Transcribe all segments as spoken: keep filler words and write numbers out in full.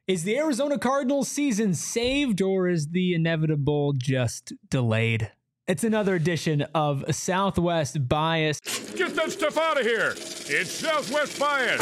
Is the Arizona Cardinals season saved, or is the inevitable just delayed? It's another edition of Southwest Bias. Get that stuff out of here. It's Southwest Bias.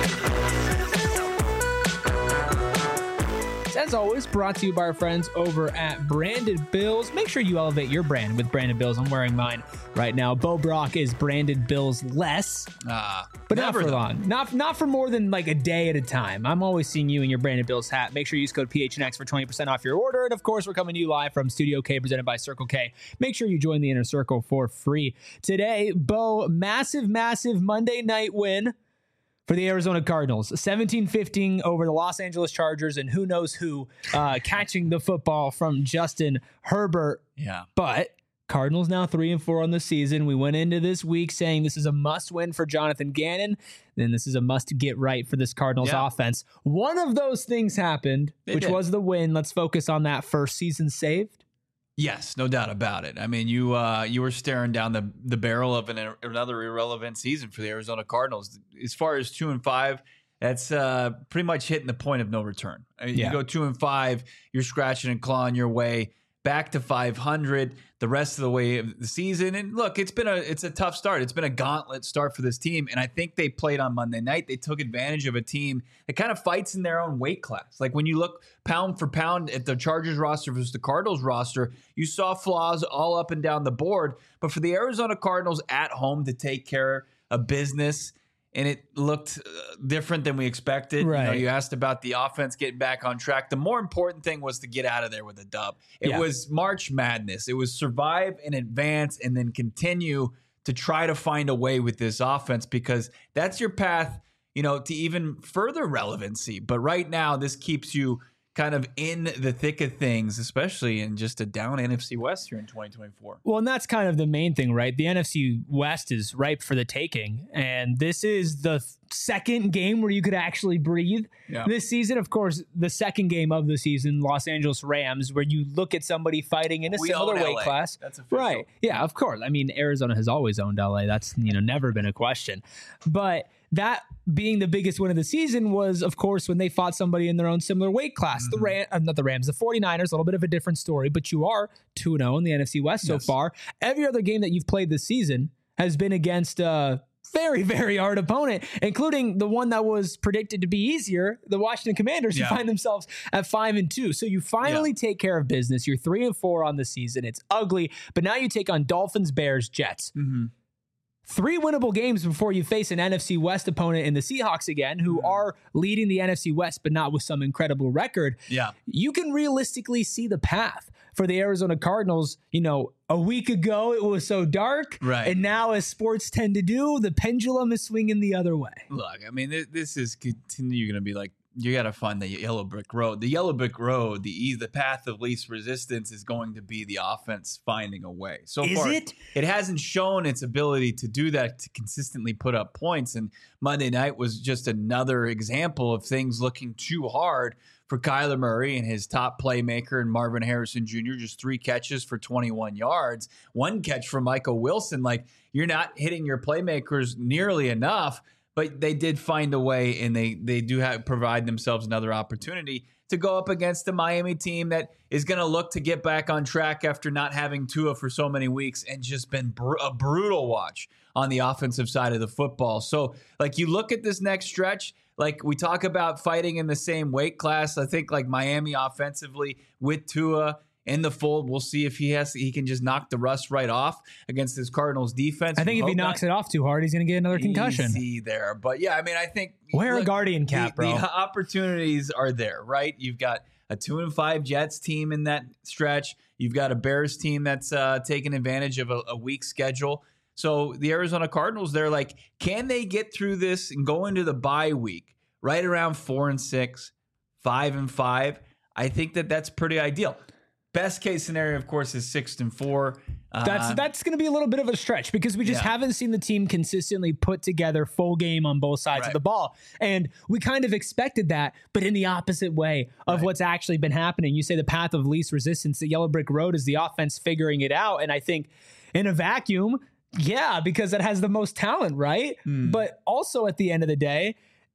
As always, brought to you by our friends over at Branded Bills. Make sure you elevate your brand with Branded Bills. I'm wearing mine right now. Bo Brock is Branded Bills less, uh, but not for though. long. Not not for more than like a day at a time. I'm always seeing you in your Branded Bills hat. Make sure you use code P H N X for twenty percent off your order. And of course, we're coming to you live from Studio K, presented by Circle K. Make sure you join the Inner Circle for free. Today, Bo, massive, massive Monday night win for the Arizona Cardinals, seventeen fifteen over the Los Angeles Chargers, and who knows who uh, catching the football from Justin Herbert. Yeah. But Cardinals now three and four on the season. We went into this week saying this is a must win for Jonathan Gannon. Then this is a must get right for this Cardinals yeah. offense. One of those things happened, They which did. was the win. Let's focus on that first. Season saved. Yes, no doubt about it. I mean, you uh, you were staring down the the barrel of an, another irrelevant season for the Arizona Cardinals. As far as two and five, that's uh, pretty much hitting the point of no return. I mean, Yeah. You go two and five, you're scratching and clawing your way back to five hundred the rest of the way of the season. And look, it's been a it's a tough start. It's been a gauntlet start for this team. And I think they played on Monday night. They took advantage of a team that kind of fights in their own weight class. Like when you look pound for pound at the Chargers roster versus the Cardinals roster, you saw flaws all up and down the board. But for the Arizona Cardinals at home to take care of business, and it looked uh, different than we expected. Right. You know, you asked about the offense getting back on track. The more important thing was to get out of there with a dub. It Yeah. was March Madness. It was survive and advance and then continue to try to find a way with this offense, because that's your path, you know, to even further relevancy. But right now, this keeps you kind of in the thick of things, especially in just a down N F C West here in twenty twenty-four. Well, and that's kind of the main thing, right? The N F C West is ripe for the taking, and this is the th- second game where you could actually breathe Yeah. this season. Of course, the second game of the season, Los Angeles Rams, where you look at somebody fighting in a We similar own weight L A. class. That's official. Right. Yeah, of course. I mean, Arizona has always owned L A. That's, you know, never been a question. But that being the biggest win of the season was, of course, when they fought somebody in their own similar weight class. Mm-hmm. The Ram, uh, not the Rams, the 49ers, a little bit of a different story, but you are two and oh in the N F C West so Yes. far. Every other game that you've played this season has been against a very, very hard opponent, including the one that was predicted to be easier, the Washington Commanders, who Yeah. find themselves at five and two. So you finally Yeah. take care of business. You're three and four on the season. It's ugly, but now you take on Dolphins, Bears, Jets. Mm-hmm. Three winnable games before you face an N F C West opponent in the Seahawks again, who are leading the N F C West, but not with some incredible record. Yeah. You can realistically see the path for the Arizona Cardinals. You know, a week ago it was so dark, Right. and now, as sports tend to do, the pendulum is swinging the other way. Look, I mean, this, this is continue going to be like, you got to find the yellow brick road. The yellow brick road, the e- the path of least resistance is going to be the offense finding a way. So Is far, it? it hasn't shown its ability to do that, to consistently put up points. And Monday night was just another example of things looking too hard for Kyler Murray and his top playmaker and Marvin Harrison Junior Just three catches for twenty-one yards, one catch from Michael Wilson. Like, you're not hitting your playmakers nearly enough. But they did find a way, and they they do have provide themselves another opportunity to go up against the Miami team that is going to look to get back on track after not having Tua for so many weeks and just been br- a brutal watch on the offensive side of the football. So, like, you look at this next stretch, like we talk about fighting in the same weight class. I think like Miami offensively with Tua in the fold, we'll see if he has he can just knock the rust right off against this Cardinals defense. I think if he Hope knocks not. it off too hard, he's going to get another concussion. Easy there. But yeah, I mean, I think Wear a look, Guardian cap, the, bro. The opportunities are there, right? You've got a two and five Jets team in that stretch. You've got a Bears team that's uh, taking advantage of a, a weak schedule. So the Arizona Cardinals, they're like, can they get through this and go into the bye week right around four and six, five and five? I think that that's pretty ideal. Best case scenario, of course, is six and four. That's Uh, that's going to be a little bit of a stretch because we just Yeah. haven't seen the team consistently put together full game on both sides of Right. the ball. And we kind of expected that, but in the opposite way of Right. what's actually been happening. You say the path of least resistance, the yellow brick road is the offense figuring it out. And I think in a vacuum, yeah, because it has the most talent, right? Hmm. But also at the end of the day,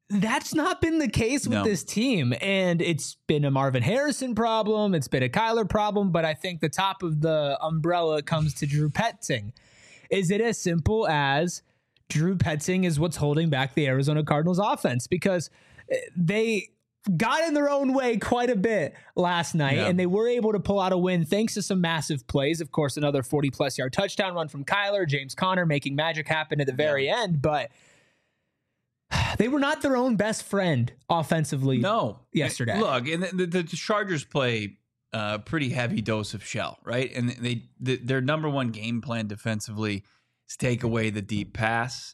that's not been the case with No. this team. And it's been a Marvin Harrison problem. It's been a Kyler problem. But I think the top of the umbrella comes to Drew Petzing. Is it as simple as Drew Petzing is what's holding back the Arizona Cardinals offense? Because they got in their own way quite a bit last night, Yeah. and they were able to pull out a win thanks to some massive plays. Of course, another forty-plus yard touchdown run from Kyler, James Conner making magic happen at the very Yeah. end. But they were not their own best friend offensively No. yesterday. Look, and the, the, the Chargers play a pretty heavy dose of shell, right? And they the, their number one game plan defensively is take away the deep pass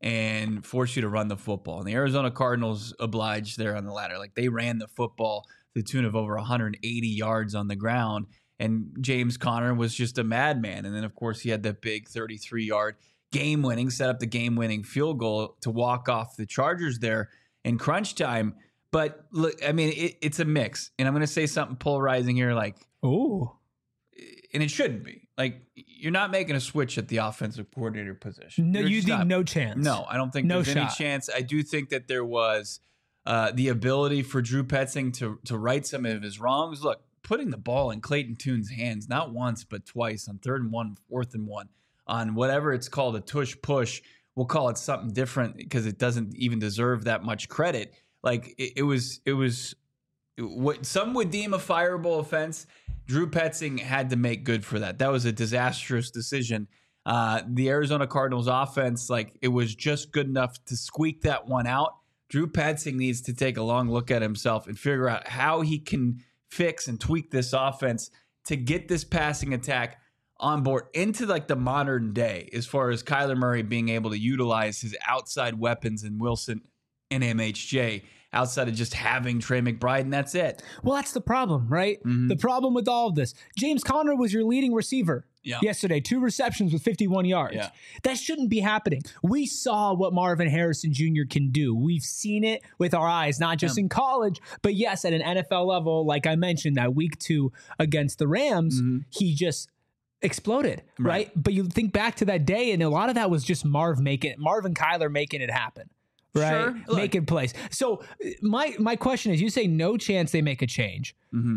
and force you to run the football. And the Arizona Cardinals obliged there on the ladder. Like, they ran the football to the tune of over one hundred eighty yards on the ground. And James Conner was just a madman. And then, of course, he had that big thirty-three yard game winning, set up the game winning field goal to walk off the Chargers there in crunch time. But look, I mean, it, it's a mix. And I'm going to say something polarizing here, like, Ooh. and it shouldn't be. Like, you're not making a switch at the offensive coordinator position. No, You're you just think not. no chance? No, I don't think No there's any shot. chance. I do think that there was uh, the ability for Drew Petzing to to right some of his wrongs. Look, putting the ball in Clayton Tune's hands, not once, but twice on third and one, fourth and one, on whatever it's called, a tush push. We'll call it something different because it doesn't even deserve that much credit. Like, it, it was, it was what some would deem a fireable offense. Drew Petzing had to make good for that. That was a disastrous decision. Uh, the Arizona Cardinals offense, like, it was just good enough to squeak that one out. Drew Petzing needs to take a long look at himself and figure out how he can fix and tweak this offense to get this passing attack on board into like the modern day, as far as Kyler Murray being able to utilize his outside weapons in Wilson and M H J outside of just having Trey McBride, and that's it. Well, that's the problem, right? Mm-hmm. The problem with all of this. James Conner was your leading receiver Yeah. yesterday, two receptions with fifty-one yards. Yeah. That shouldn't be happening. We saw what Marvin Harrison Junior can do. We've seen it with our eyes, not just Yeah. in college, but yes, at an N F L level, like I mentioned, that week two against the Rams, Mm-hmm. he just exploded, right. Right. But you think back to that day, and a lot of that was just Marv making Marvin Kyler making it happen. Right, Sure. Look. making plays. So my my question is: you say no chance they make a change. Mm-hmm.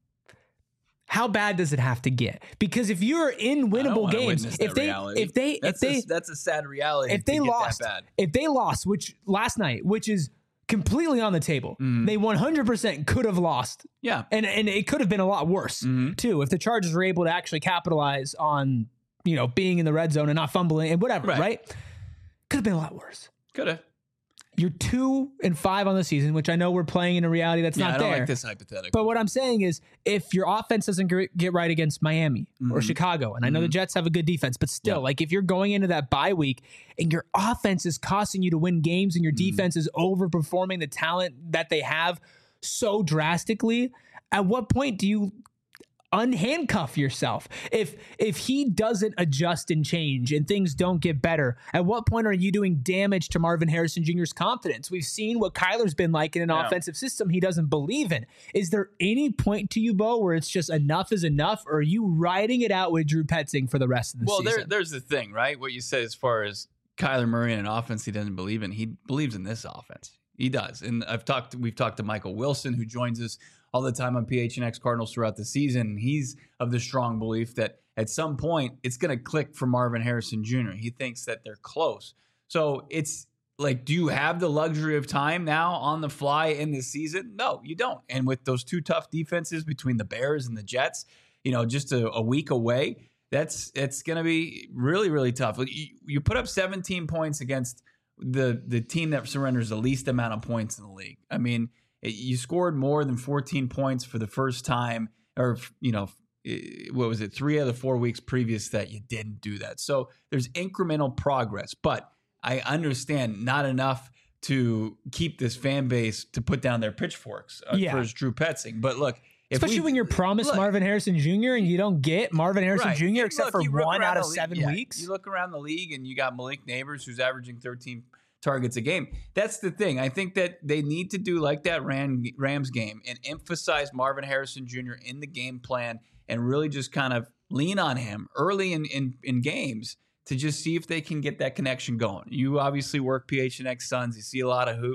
How bad does it have to get? Because if you're in I don't winnable wanna games, witness if that they reality. if they that's if they a, that's a sad reality. if they to get lost, that bad. if they lost, which last night, which is completely on the table, Mm-hmm. they one hundred percent could have lost, Yeah. and and it could have been a lot worse Mm-hmm. too if the Chargers were able to actually capitalize on, you know, being in the red zone and not fumbling and whatever. Right. Right? Could have been a lot worse. Could have. You're two and five on the season, which I know we're playing in a reality that's Yeah, not I don't there. like this hypothetical. But what I'm saying is, if your offense doesn't gr- get right against Miami or Chicago, and I know the Jets have a good defense, but still, Mm-hmm. Yeah. like if you're going into that bye week and your offense is costing you to win games and your Mm-hmm. defense is overperforming the talent that they have so drastically, at what point do you unhandcuff yourself? If if he doesn't adjust and change and things don't get better, at what point are you doing damage to Marvin Harrison Junior's confidence? We've seen what Kyler's been like in an Yeah. offensive system he doesn't believe in. Is there any point to you, Bo, where it's just enough is enough, or are you riding it out with Drew Petzing for the rest of the well, season? there, there's the thing, right? What you said as far as Kyler Murray and an offense he doesn't believe in, he believes in this offense. He does. And I've talked, we've talked to Michael Wilson, who joins us all the time on P H N X Cardinals throughout the season. He's of the strong belief that at some point it's going to click for Marvin Harrison Junior He thinks that they're close. So it's like, do you have the luxury of time now on the fly in this season? No, you don't. And with those two tough defenses between the Bears and the Jets, you know, just a, a week away, that's it's going to be really, really tough. Like, you, you put up seventeen points against the the team that surrenders the least amount of points in the league. I mean, it, you scored more than fourteen points for the first time, or, you know, what was it, three of the four weeks previous that you didn't do that. So there's incremental progress, but I understand not enough to keep this fan base to put down their pitchforks uh, Yeah. for Drew Petzing. But look, if Especially we- when you're promised look, Marvin Harrison Junior and you don't get Marvin Harrison Right. Junior And except look, for you look one around out of the league- seven yeah, weeks. You look around the league and you got Malik Neighbors, who's averaging thirteen targets a game. That's the thing. I think that they need to do like that Ram, Rams game and emphasize Marvin Harrison Junior in the game plan and really just kind of lean on him early in, in, in games to just see if they can get that connection going. You obviously work P H N X Suns. You see a lot of hoops.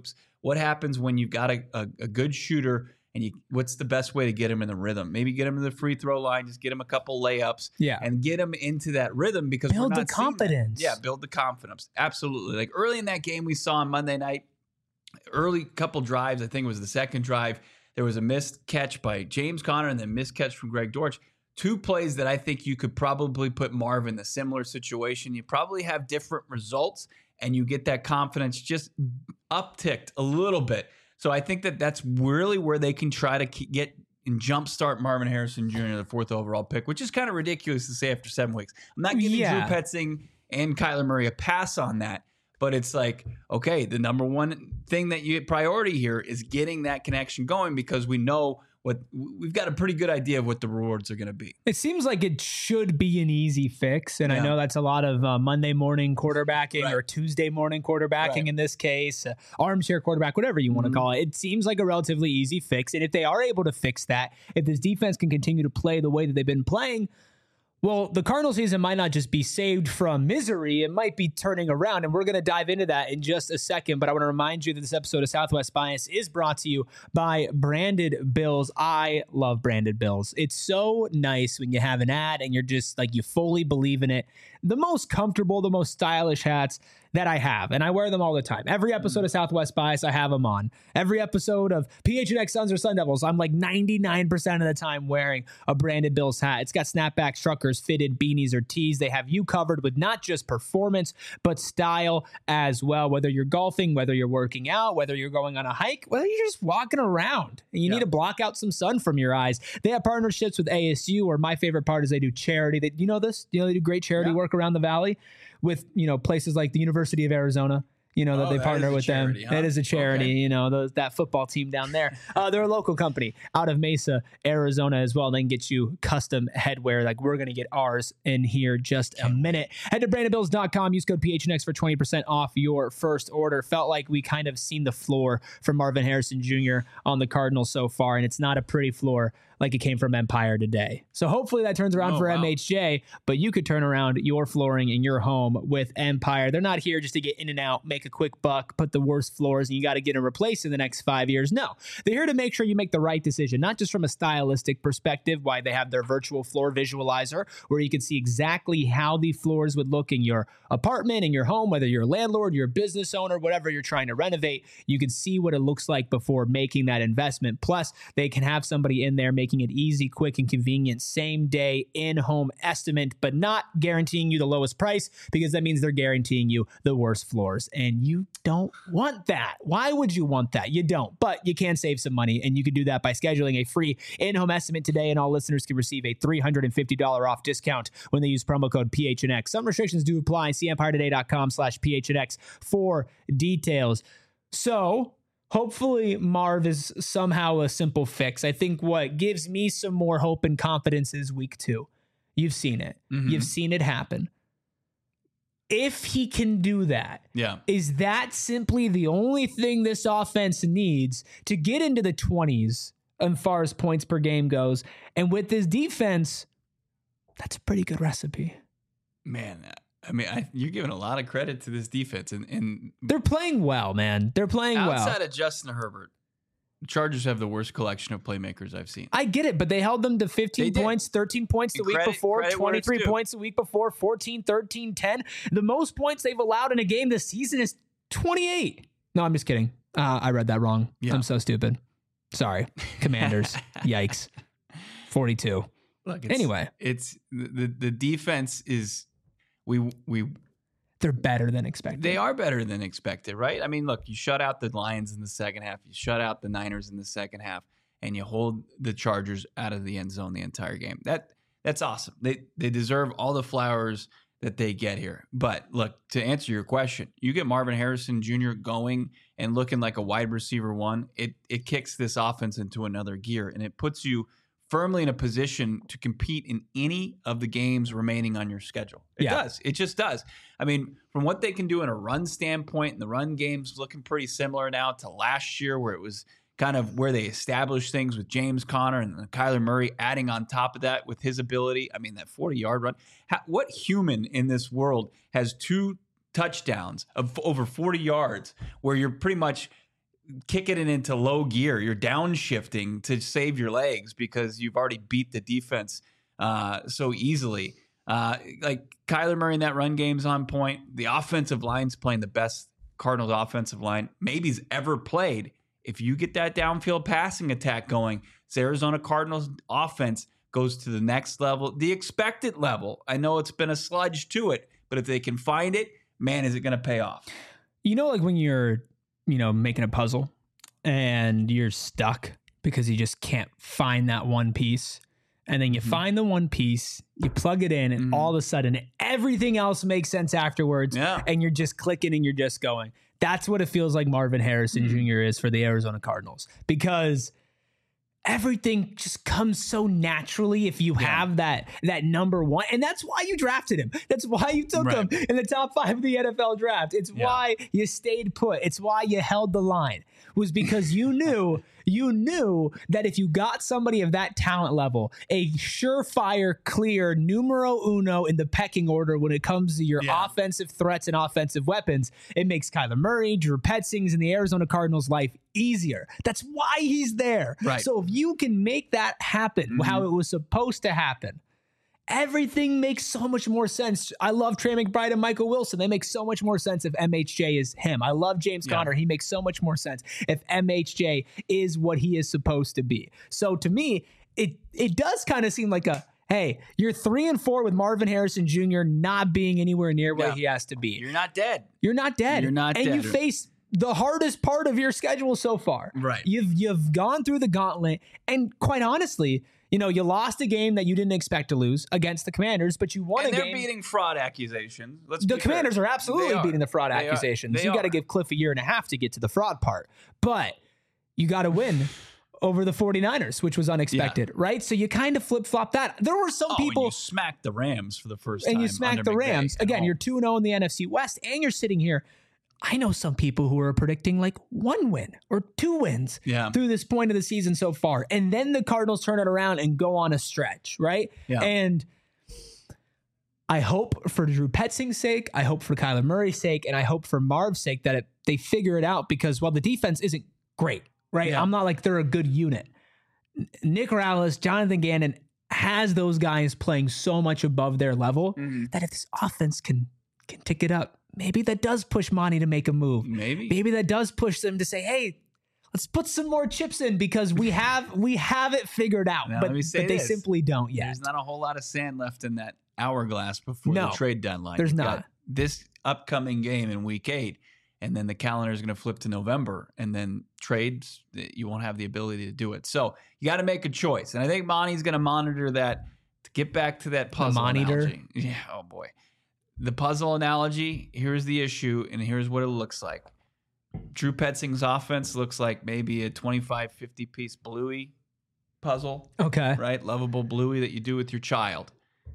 what happens when you've got a, a, a good shooter and you, what's the best way to get him in the rhythm? Maybe get him to the free throw line, just get him a couple layups Yeah. and get him into that rhythm because Build we're the not seeing that. confidence. Yeah, build the confidence. Absolutely. Like early in that game we saw on Monday night, early couple drives, I think it was the second drive, there was a missed catch by James Conner and then missed catch from Greg Dortch. Two plays that I think you could probably put Marv in a similar situation. You probably have different results and you get that confidence just upticked a little bit. So I think that that's really where they can try to keep, get and jumpstart Marvin Harrison Junior, the fourth overall pick, which is kind of ridiculous to say after seven weeks. I'm not giving Yeah. Drew Petzing and Kyler Murray a pass on that. But it's like, okay, the number one thing that you get priority here is getting that connection going because we know what we've got a pretty good idea of what the rewards are going to be. It seems like it should be an easy fix. And Yeah. I know that's a lot of uh, Monday morning quarterbacking Right. or Tuesday morning quarterbacking Right. in this case, uh, armchair quarterback, whatever you want to Mhm. call it. It seems like a relatively easy fix. And if they are able to fix that, if this defense can continue to play the way that they've been playing, well, the Cardinal season might not just be saved from misery. It might be turning around, and we're going to dive into that in just a second. But I want to remind you that this episode of Southwest Bias is brought to you by Branded Bills. I love Branded Bills. It's so nice when you have an ad and you're just like, you fully believe in it. The most comfortable, the most stylish hats that I have, and I wear them all the time. Every episode of Southwest Bias, I have them on. Every episode of P H N X Suns or Sun Devils, I'm like ninety-nine percent of the time wearing a Branded Bills hat. It's got snapback truckers, fitted beanies or tees. They have you covered with not just performance, but style as well. Whether you're golfing, whether you're working out, whether you're going on a hike, whether you're just walking around and you Yeah. need to block out some sun from your eyes. They have partnerships with A S U, or my favorite part is they do charity. They, you know this? You know they do great charity Yeah. work around the valley with, you know, places like the University of Arizona, you know, that Oh, they that partner is a with charity, them. huh? It is a charity, Okay. you know, those, that football team down there. Uh, they're a local company out of Mesa, Arizona as well. They can get you custom headwear. Like we're going to get ours in here just a minute. Head to branded bills dot com. Use code P H N X for twenty percent off your first order. Felt like we kind of seen the floor for Marvin Harrison Junior on the Cardinals so far, and it's not a pretty floor like it came from Empire today. So hopefully that turns around Oh, for wow. M H J, but you could turn around your flooring in your home with Empire. They're not here just to get in and out, make a quick buck, put the worst floors, and you got to get them replaced in the next five years. No, they're here to make sure you make the right decision, not just from a stylistic perspective, why they have their virtual floor visualizer, where you can see exactly how the floors would look in your apartment, in your home, whether you're a landlord, you're a business owner, whatever you're trying to renovate. You can see what it looks like before making that investment. Plus, they can have somebody in there making it easy, quick, and convenient, same day in-home estimate, but not guaranteeing you the lowest price, because that means they're guaranteeing you the worst floors. And you don't want that. Why would you want that? You don't, but you can save some money, and you can do that by scheduling a free in-home estimate today, and all listeners can receive a three hundred fifty dollars off discount when they use promo code P H N X. Some restrictions do apply. See empire today dot com slash P H N X for details. So hopefully Marv is somehow a simple fix. I think what gives me some more hope and confidence is week two. You've seen it. Mhm. You've seen it happen. If he can do that, Yeah. is that simply the only thing this offense needs to get into the twenties as far as points per game goes? And with this defense, that's a pretty good recipe. Man, I mean, I, you're giving a lot of credit to this defense. And, and They're playing well, man. They're playing outside well. of Justin Herbert, the Chargers have the worst collection of playmakers I've seen. I get it, but they held them to fifteen They did. points, thirteen points the And week credit- before, credit where it's twenty-three due. points the week before, fourteen, thirteen, ten. The most points they've allowed in a game this season is twenty-eight. No, I'm just kidding. Uh, I read that wrong. Yeah. I'm so stupid. Sorry. Commanders. Yikes. forty-two. Look, it's, Anyway. it's the the defense is we we They're better than expected. they are better than expected, right? I mean, look, you shut out the Lions in the second half, you shut out the Niners in the second half, and you hold the Chargers out of the end zone the entire game. That that's awesome. They they deserve all the flowers that they get here. But look, to answer your question, you get Marvin Harrison Junior going and looking like a wide receiver one, it it kicks this offense into another gear, and it puts you firmly in a position to compete in any of the games remaining on your schedule. It Yeah. does. It just does. I mean, from what they can do in a run standpoint, and the run game's looking pretty similar now to last year, where it was kind of where they established things with James Conner and then Kyler Murray adding on top of that with his ability. I mean, that forty-yard run. How, what human in this world has two touchdowns of over forty yards where you're pretty much kicking it into low gear. You're downshifting to save your legs because you've already beat the defense uh, so easily. Uh, like Kyler Murray in that run game's on point. The offensive line's playing the best Cardinals offensive line maybe's ever played. If you get that downfield passing attack going, this Arizona Cardinals offense goes to the next level, the expected level. I know it's been a sludge to it, but if they can find it, man, is it going to pay off? You know, like when you're, you know, making a puzzle and you're stuck because you just can't find that one piece. And then you mm-hmm. find the one piece, you plug it in, and mm-hmm. all of a sudden everything else makes sense afterwards. Yeah. And you're just clicking and you're just going. That's what it feels like Marvin Harrison mm-hmm. Junior is for the Arizona Cardinals, because everything just comes so naturally if you yeah. have that that number one. And that's why you drafted him. That's why you took right. him in the top five of the N F L draft. It's yeah. why you stayed put. It's why you held the line, was because you knew you knew that if you got somebody of that talent level, a surefire, clear numero uno in the pecking order when it comes to your yeah. offensive threats and offensive weapons, it makes Kyler Murray, Drew Petzings, and the Arizona Cardinals' life easier. That's why he's there. Right. So if you can make that happen, mm-hmm. how it was supposed to happen, everything makes so much more sense. I love Trey McBride and Michael Wilson. They make so much more sense if M H J is him. I love James yeah. Conner. He makes so much more sense if M H J is what he is supposed to be. So to me, it it does kind of seem like a, hey, you're three and four with Marvin Harrison Junior not being anywhere near where yeah. he has to be. You're not dead. You're not dead. You're not and dead. And you face the hardest part of your schedule so far. Right. You've you've gone through the gauntlet, and quite honestly, you know, you lost a game that you didn't expect to lose against the Commanders, but you won and a they're game. They're beating fraud accusations. Let's the be Commanders fair. are absolutely are. beating the fraud they accusations. Are. You got to are. give Cliff a year and a half to get to the fraud part. But you got to win over the 49ers, which was unexpected, yeah. right? So you kind of flip-flop that. There were some oh, people... and you smacked the Rams for the first and time. And you smacked the Rams. Again, you're two and oh in the N F C West, and you're sitting here. I know some people who are predicting like one win or two wins yeah. through this point of the season so far. And then the Cardinals turn it around and go on a stretch, right? Yeah. And I hope for Drew Petzing's sake, I hope for Kyler Murray's sake, and I hope for Marv's sake that it, they figure it out, because while the defense isn't great, right? Yeah. I'm not like they're a good unit. Nick Rallis, Jonathan Gannon has those guys playing so much above their level mm-hmm. that if this offense can can tick it up, maybe that does push Monty to make a move. Maybe. Maybe that does push them to say, hey, let's put some more chips in, because we have we have it figured out. Now, but but they this. simply don't yet. There's not a whole lot of sand left in that hourglass before no, the trade deadline. There's You've not. got this upcoming game in week eight, and then the calendar is going to flip to November, and then trades, you won't have the ability to do it. So you got to make a choice. And I think Monty's going to monitor that to get back to that puzzle analogy. Yeah, oh boy. The puzzle analogy, here's the issue, and here's what it looks like. Drew Petzing's offense looks like maybe a twenty-five, fifty piece Bluey puzzle. Okay. Right? Lovable Bluey that you do with your child.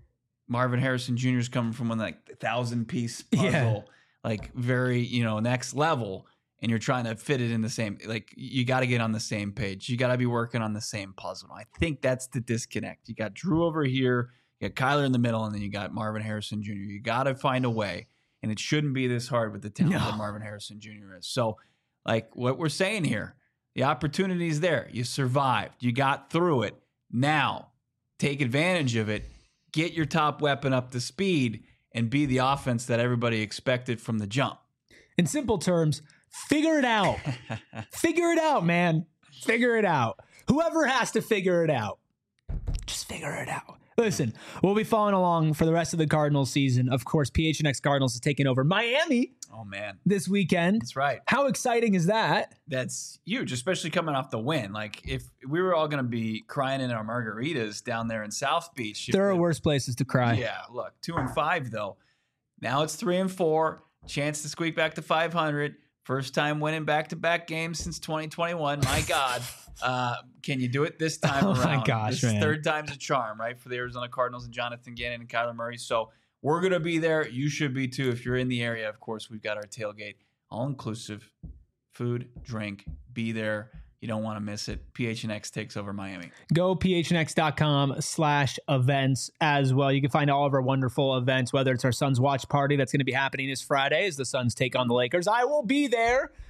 Marvin Harrison Junior is coming from one like a thousand piece puzzle, yeah. like very, you know, next level, and you're trying to fit it in the same, like you got to get on the same page. You got to be working on the same puzzle. I think that's the disconnect. You got Drew over here, you got Kyler in the middle, and then you got Marvin Harrison Junior You got to find a way, and it shouldn't be this hard with the talent no. that Marvin Harrison Junior is. So, like what we're saying here, the opportunity is there. You survived. You got through it. Now, take advantage of it. Get your top weapon up to speed and be the offense that everybody expected from the jump. In simple terms, figure it out. Figure it out, man. Figure it out. Whoever has to figure it out, just figure it out. Listen, we'll be following along for the rest of the Cardinals season. Of course, P H N X Cardinals is taking over Miami. Oh, man. This weekend. That's right. How exciting is that? That's huge, especially coming off the win. Like, if we were all going to be crying in our margaritas down there in South Beach. There are worse places to cry. Yeah, look, two and five, though. Now it's three and four. Chance to squeak back to five hundred. First time winning back-to-back games since twenty twenty-one. My God. Uh, can you do it this time oh around? My gosh, this man. Third time's a charm, right, for the Arizona Cardinals and Jonathan Gannon and Kyler Murray. So we're going to be there. You should be, too. If you're in the area, of course, we've got our tailgate. All-inclusive. Food, drink. Be there. You don't want to miss it. P H N X takes over Miami. Go phnx.com slash events as well. You can find all of our wonderful events, whether it's our Suns watch party that's going to be happening this Friday as the Suns take on the Lakers. I will be there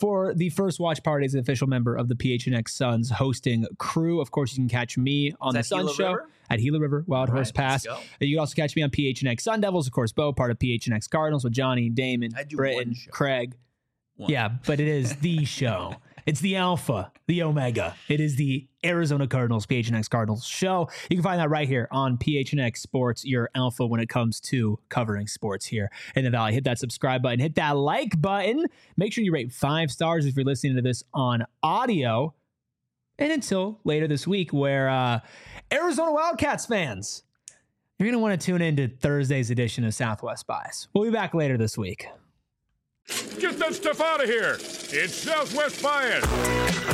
for the First Watch Party as an official member of the P H N X Suns hosting crew. Of course, you can catch me on the Sun Show River? at Gila River, Wild All Horse right, Pass. let's go. You can also catch me on P H N X Sun Devils. Of course, Bo, part of P H N X Cardinals with Johnny, Damon, I do Britton, one show. Craig. One. Yeah, but it is the show. It's the Alpha, the Omega. It is the Arizona Cardinals, P H N X Cardinals show. You can find that right here on P H N X Sports, your alpha when it comes to covering sports here in the Valley. Hit that subscribe button, hit that like button. Make sure you rate five stars if you're listening to this on audio. And until later this week, where uh, Arizona Wildcats fans, you're going to want to tune in to Thursday's edition of Southwest Bias. We'll be back later this week. Get that stuff out of here. It's Southwest Bias.